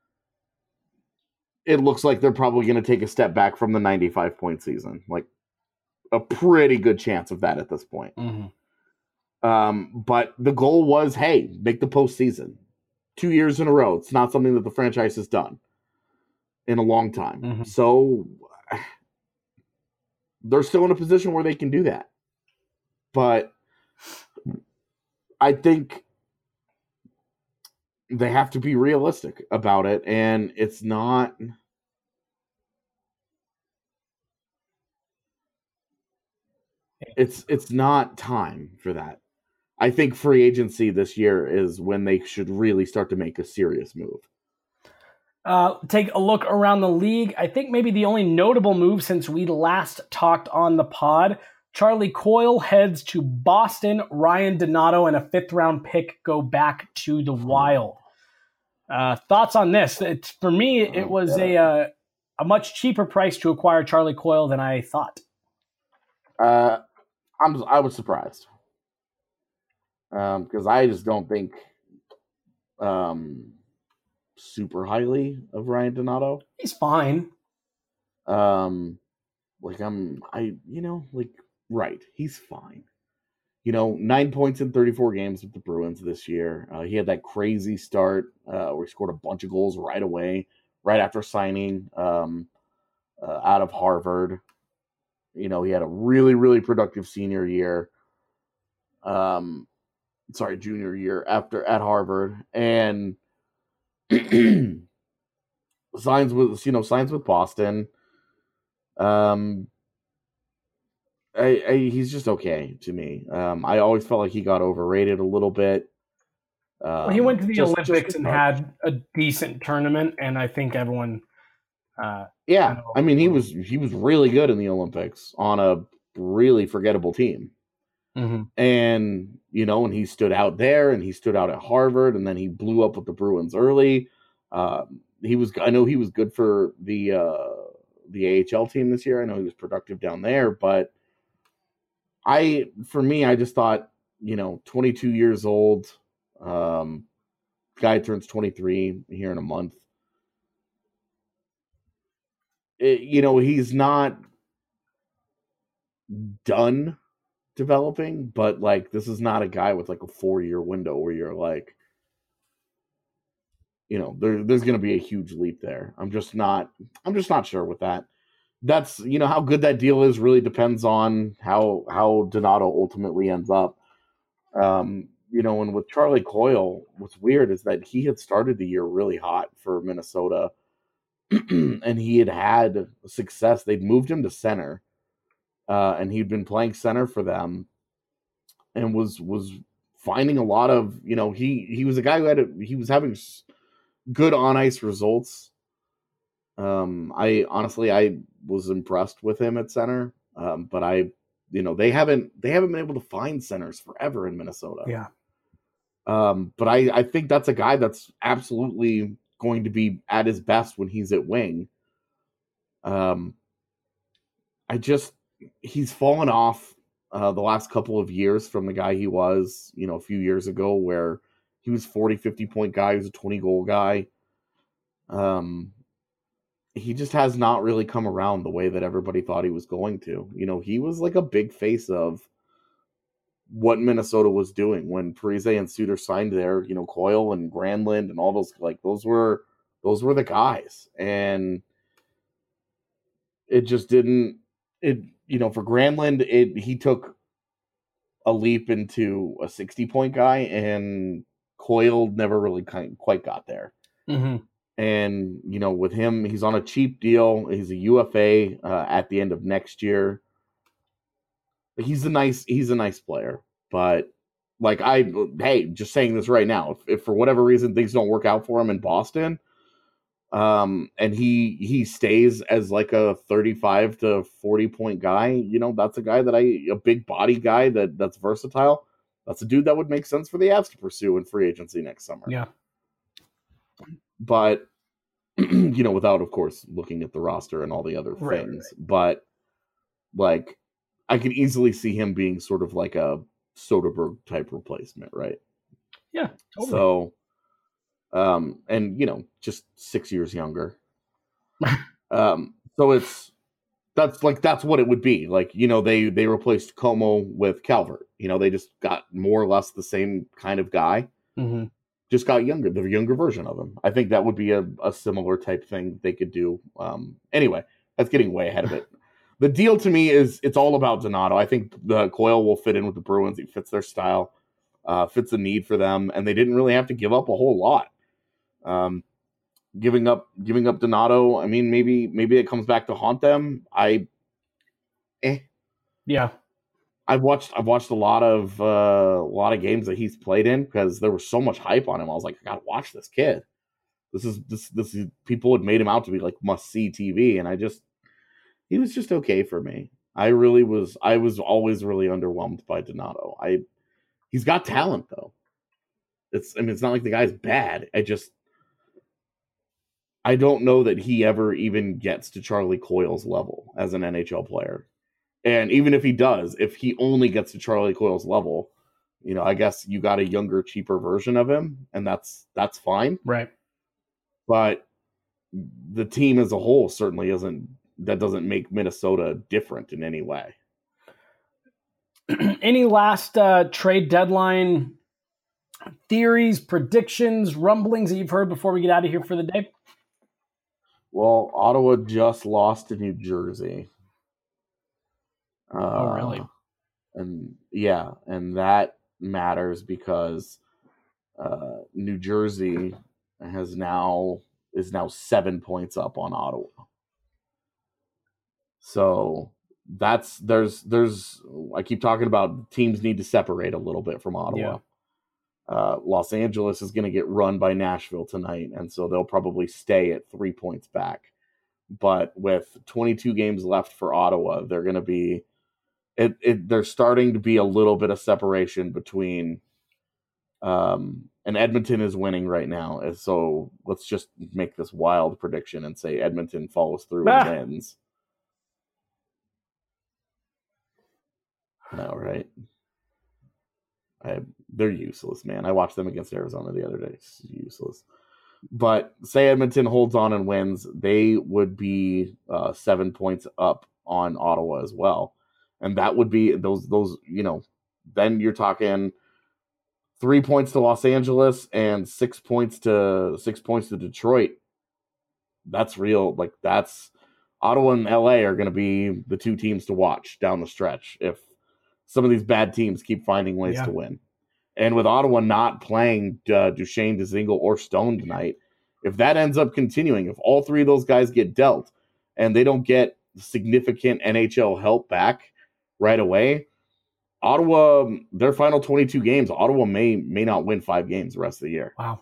J: it looks like they're probably going to take a step back from the 95-point season. Like, a pretty good chance of that at this point.
A: Mm-hmm.
J: But the goal was, hey, make the postseason 2 years in a row. It's not something that the franchise has done in a long time.
A: Mm-hmm.
J: So they're still in a position where they can do that. But I think they have to be realistic about it, and it's not. It's not time for that. I think free agency this year is when they should really start to make a serious move.
A: Take a look around the league. I think maybe the only notable move since we last talked on the pod, Charlie Coyle heads to Boston. Ryan Donato and a 5th-round pick go back to the Wild. Thoughts on this? For me, it was a much cheaper price to acquire Charlie Coyle than I thought.
J: I was surprised because I just don't think super highly of Ryan Donato.
A: He's fine.
J: Right. He's fine. 9 points in 34 games with the Bruins this year. He had that crazy start where he scored a bunch of goals right away, right after signing out of Harvard. He had a really, really productive senior year. Junior year at Harvard, and signs with Boston. He's just okay to me. I always felt like he got overrated a little bit.
A: He went to the Olympics and had a decent tournament, and I think everyone.
J: He was really good in the Olympics on a really forgettable team.
A: Mm-hmm.
J: And and he stood out there, and he stood out at Harvard, and then he blew up with the Bruins early. I know he was good for the AHL team this year. I know he was productive down there, but I just thought, 22 years old, guy turns 23 here in a month. He's not done developing, but this is not a guy with a 4-year window where you're there's going to be a huge leap there. I'm just not sure with that. That's how good that deal is really depends on how Donato ultimately ends up. And with Charlie Coyle, what's weird is that he had started the year really hot for Minnesota. And he had success. They'd moved him to center, and he'd been playing center for them, and was finding a lot of he was a guy who was having good on ice results. I was impressed with him at center, but they haven't been able to find centers forever in Minnesota.
A: Yeah,
J: but I think that's a guy that's absolutely going to be at his best when he's at wing. He's fallen off the last couple of years from the guy he was, a few years ago where he was 40, 50 point guy. He was a 20 goal guy. He just has not really come around the way that everybody thought he was going to. He was a big face of what Minnesota was doing when Parise and Suter signed there. Coyle and Granlund and all those those were the guys, and it just didn't. For Granlund, he took a leap into a 60-point guy, and Coyle never really quite got there.
A: Mm-hmm.
J: And with him, he's on a cheap deal. He's a UFA at the end of next year. He's a nice player, but just saying this right now, if for whatever reason things don't work out for him in Boston, and he stays as a 35 to 40 point guy, that's a guy a big body guy that's versatile. That's a dude that would make sense for the Avs to pursue in free agency next summer.
A: Yeah.
J: But without of course looking at the roster and all the other things, right. But I could easily see him being sort of like a Soderbergh type replacement, right?
A: Yeah, totally.
J: So, and just 6 years younger. So that's what it would be. They replaced Como with Calvert. They just got more or less the same kind of guy.
A: Mm-hmm.
J: Just got younger, the younger version of him. I think that would be a similar type thing they could do. Anyway, that's getting way ahead of it. The deal to me is it's all about Donato. I think the Coyle will fit in with the Bruins. He fits their style, fits the need for them, and they didn't really have to give up a whole lot. Giving up Donato. I mean, maybe it comes back to haunt them.
A: Yeah.
J: I've watched a lot of games that he's played in because there was so much hype on him. I was like, I gotta watch this kid. This is people had made him out to be like must see TV, and he was just okay for me. I was always really underwhelmed by Donato. He's got talent though. It's not like the guy's bad. I don't know that he ever even gets to Charlie Coyle's level as an NHL player. And even if he does, if he only gets to Charlie Coyle's level, I guess you got a younger, cheaper version of him, and that's fine.
A: Right.
J: But the team as a whole certainly doesn't make Minnesota different in any way.
A: Any last trade deadline theories, predictions, rumblings that you've heard before we get out of here for the day?
J: Well, Ottawa just lost to New Jersey.
A: Oh, really?
J: And that matters because New Jersey is now 7 points up on Ottawa. So there's I keep talking about teams need to separate a little bit from Ottawa. Yeah. Los Angeles is going to get run by Nashville tonight, and so they'll probably stay at 3 points back. But with 22 games left for Ottawa, they're going to be there's starting to be a little bit of separation between and Edmonton is winning right now. And so let's just make this wild prediction and say Edmonton follows through and wins. No, right? They're useless, man. I watched them against Arizona the other day. It's useless. But say Edmonton holds on and wins, they would be 7 points up on Ottawa as well. And that would be those, then you're talking 3 points to Los Angeles and 6 points to Detroit. That's real. Like that's Ottawa and LA are going to be the two teams to watch down the stretch if some of these bad teams keep finding ways to win. And with Ottawa not playing Duchesne, Dzingel, or Stone tonight, if that ends up continuing, if all three of those guys get dealt and they don't get significant NHL help back right away, Ottawa, their final 22 games, Ottawa may not win 5 games the rest of the year.
A: Wow.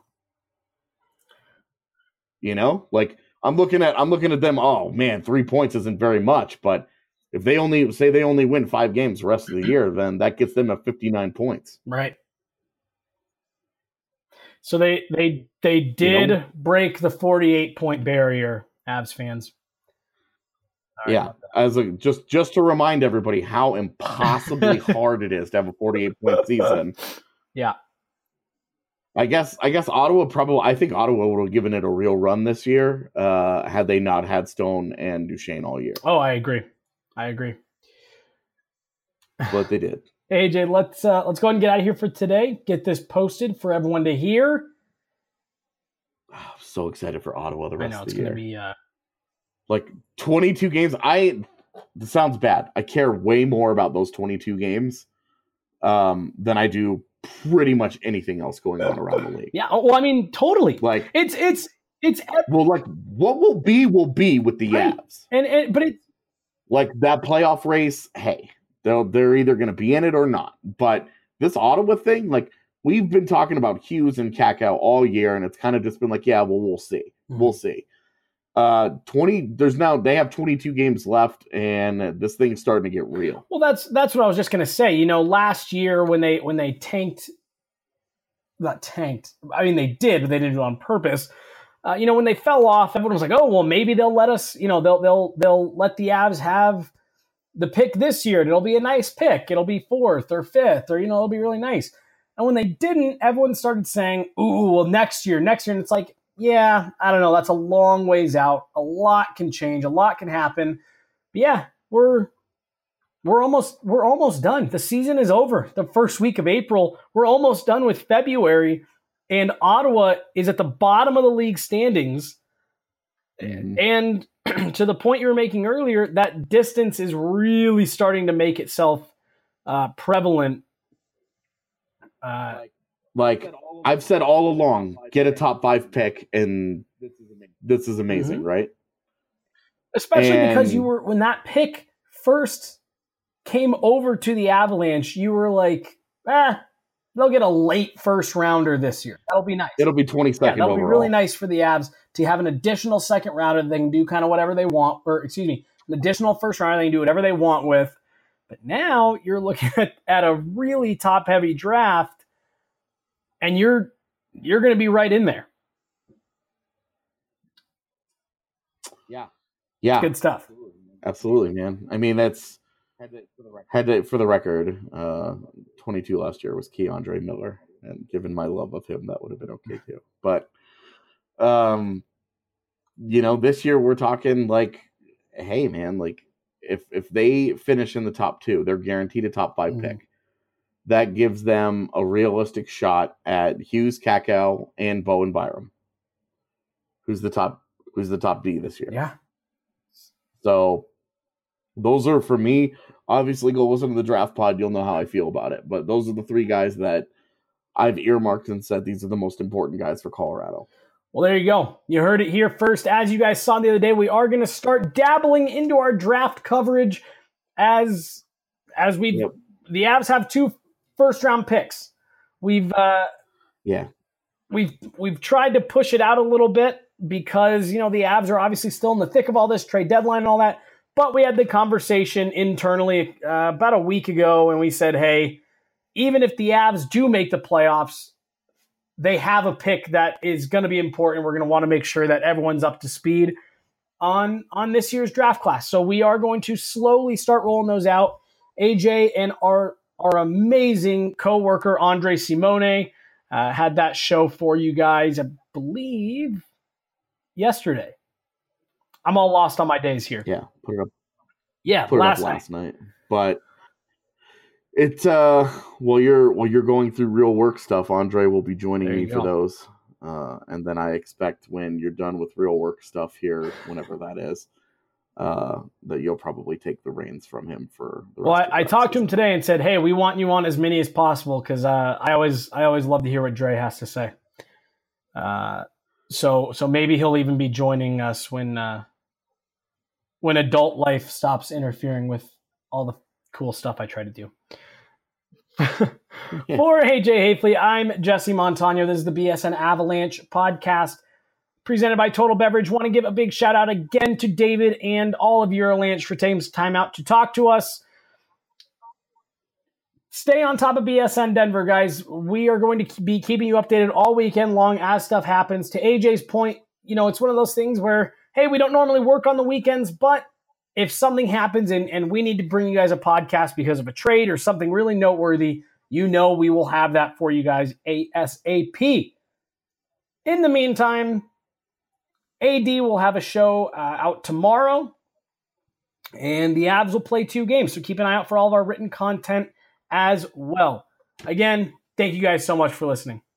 J: Like I'm looking at them. Oh man, 3 points isn't very much, but if they only win 5 games the rest of the year, then that gets them at 59 points.
A: Right. So they did break the 48-point barrier, Avs fans.
J: Yeah, just to remind everybody how impossibly hard it is to have a 48-point season.
A: Yeah.
J: I guess Ottawa I think Ottawa would have given it a real run this year had they not had Stone and Duchesne all year.
A: Oh, I agree.
J: But they did.
A: Hey, AJ, let's go ahead and get out of here for today. Get this posted for everyone to hear.
J: I'm so excited for Ottawa the rest of the year.
A: I know, it's going to be...
J: Like 22 games. This sounds bad. I care way more about those 22 games than I do pretty much anything else going on around the league.
A: Yeah, well, I mean, totally.
J: Like
A: it's
J: well, like what will be with the Avs.
A: But it's
J: like that playoff race. Hey, they're either going to be in it or not. But this Ottawa thing, like we've been talking about Hughes and Kakao all year, and it's kind of just been like, yeah, well, we'll see. Mm-hmm. We'll see. They have 22 games left, and this thing's starting to get real.
A: Well, that's what I was just going to say. Last year when they tanked, not tanked. I mean, they did, but they didn't do it on purpose. When they fell off, everyone was like, "Oh, well, maybe they'll let us. They'll let the Avs have the pick this year. It'll be a nice pick. It'll be 4th or 5th, or it'll be really nice." And when they didn't, everyone started saying, "Ooh, well, next year," and it's like, yeah, I don't know. That's a long ways out. A lot can change. A lot can happen. But yeah, we're almost done. The season is over. The first week of April, we're almost done with February, and Ottawa is at the bottom of the league standings. Mm-hmm. And to the point you were making earlier, that distance is really starting to make itself prevalent.
J: Like I've said all along, get a top 5 pick, and this is amazing, right?
A: Especially because when that pick first came over to the Avalanche, you were like, they'll get a late first rounder this year. That'll be nice.
J: It'll be 22nd
A: that'll
J: overall.
A: be really nice for the Avs to have an additional second rounder that they can do kind of whatever they want, or an additional first rounder they can do whatever they want with. But now you're looking at a really top-heavy draft, and you're going to be right in there.
J: Yeah.
A: Good stuff.
J: Absolutely, man. I mean, that's for the record. 22 last year was Keandre Miller, and given my love of him, that would have been okay too. But, this year we're talking like, hey, man, like if they finish in the top 2, they're guaranteed a top 5 pick. That gives them a realistic shot at Hughes, Kakko, and Bowen Byram. Who's the top D this year?
A: Yeah.
J: So those are, for me, obviously go listen to the draft pod. You'll know how I feel about it. But those are the 3 guys that I've earmarked and said these are the most important guys for Colorado.
A: Well, there you go. You heard it here first. As you guys saw the other day, we are going to start dabbling into our draft coverage as the Avs have 2 first-round picks. We've tried to push it out a little bit, because, the Avs are obviously still in the thick of all this trade deadline and all that. But we had the conversation internally about a week ago, and we said, hey, even if the Avs do make the playoffs, they have a pick that is going to be important. We're going to want to make sure that everyone's up to speed on this year's draft class. So we are going to slowly start rolling those out. AJ and our amazing coworker, Andre Simone, had that show for you guys, I believe, yesterday. I'm all lost on my days here.
J: Yeah, put it up.
A: Yeah,
J: put it up last night. But it's while you're going through real work stuff, Andre will be joining me for those. And then I expect when you're done with real work stuff here, whenever that is, that you'll probably take the reins from him for the rest of the
A: I talked to him today and said, hey, we want you on as many as possible, because I always love to hear what Dre has to say. So maybe he'll even be joining us when adult life stops interfering with all the cool stuff I try to do. For AJ Hafley, I'm Jesse Montano. This is the BSN Avalanche podcast presented by Total Beverage. Want to give a big shout out again to David and all of Eurolanche for taking some time out to talk to us. Stay on top of BSN Denver, guys. We are going to be keeping you updated all weekend long as stuff happens. To AJ's point, it's one of those things where, hey, we don't normally work on the weekends, but if something happens and we need to bring you guys a podcast because of a trade or something really noteworthy, we will have that for you guys ASAP. In the meantime, AD will have a show out tomorrow, and the Avs will play 2 games, so keep an eye out for all of our written content as well. Again, thank you guys so much for listening.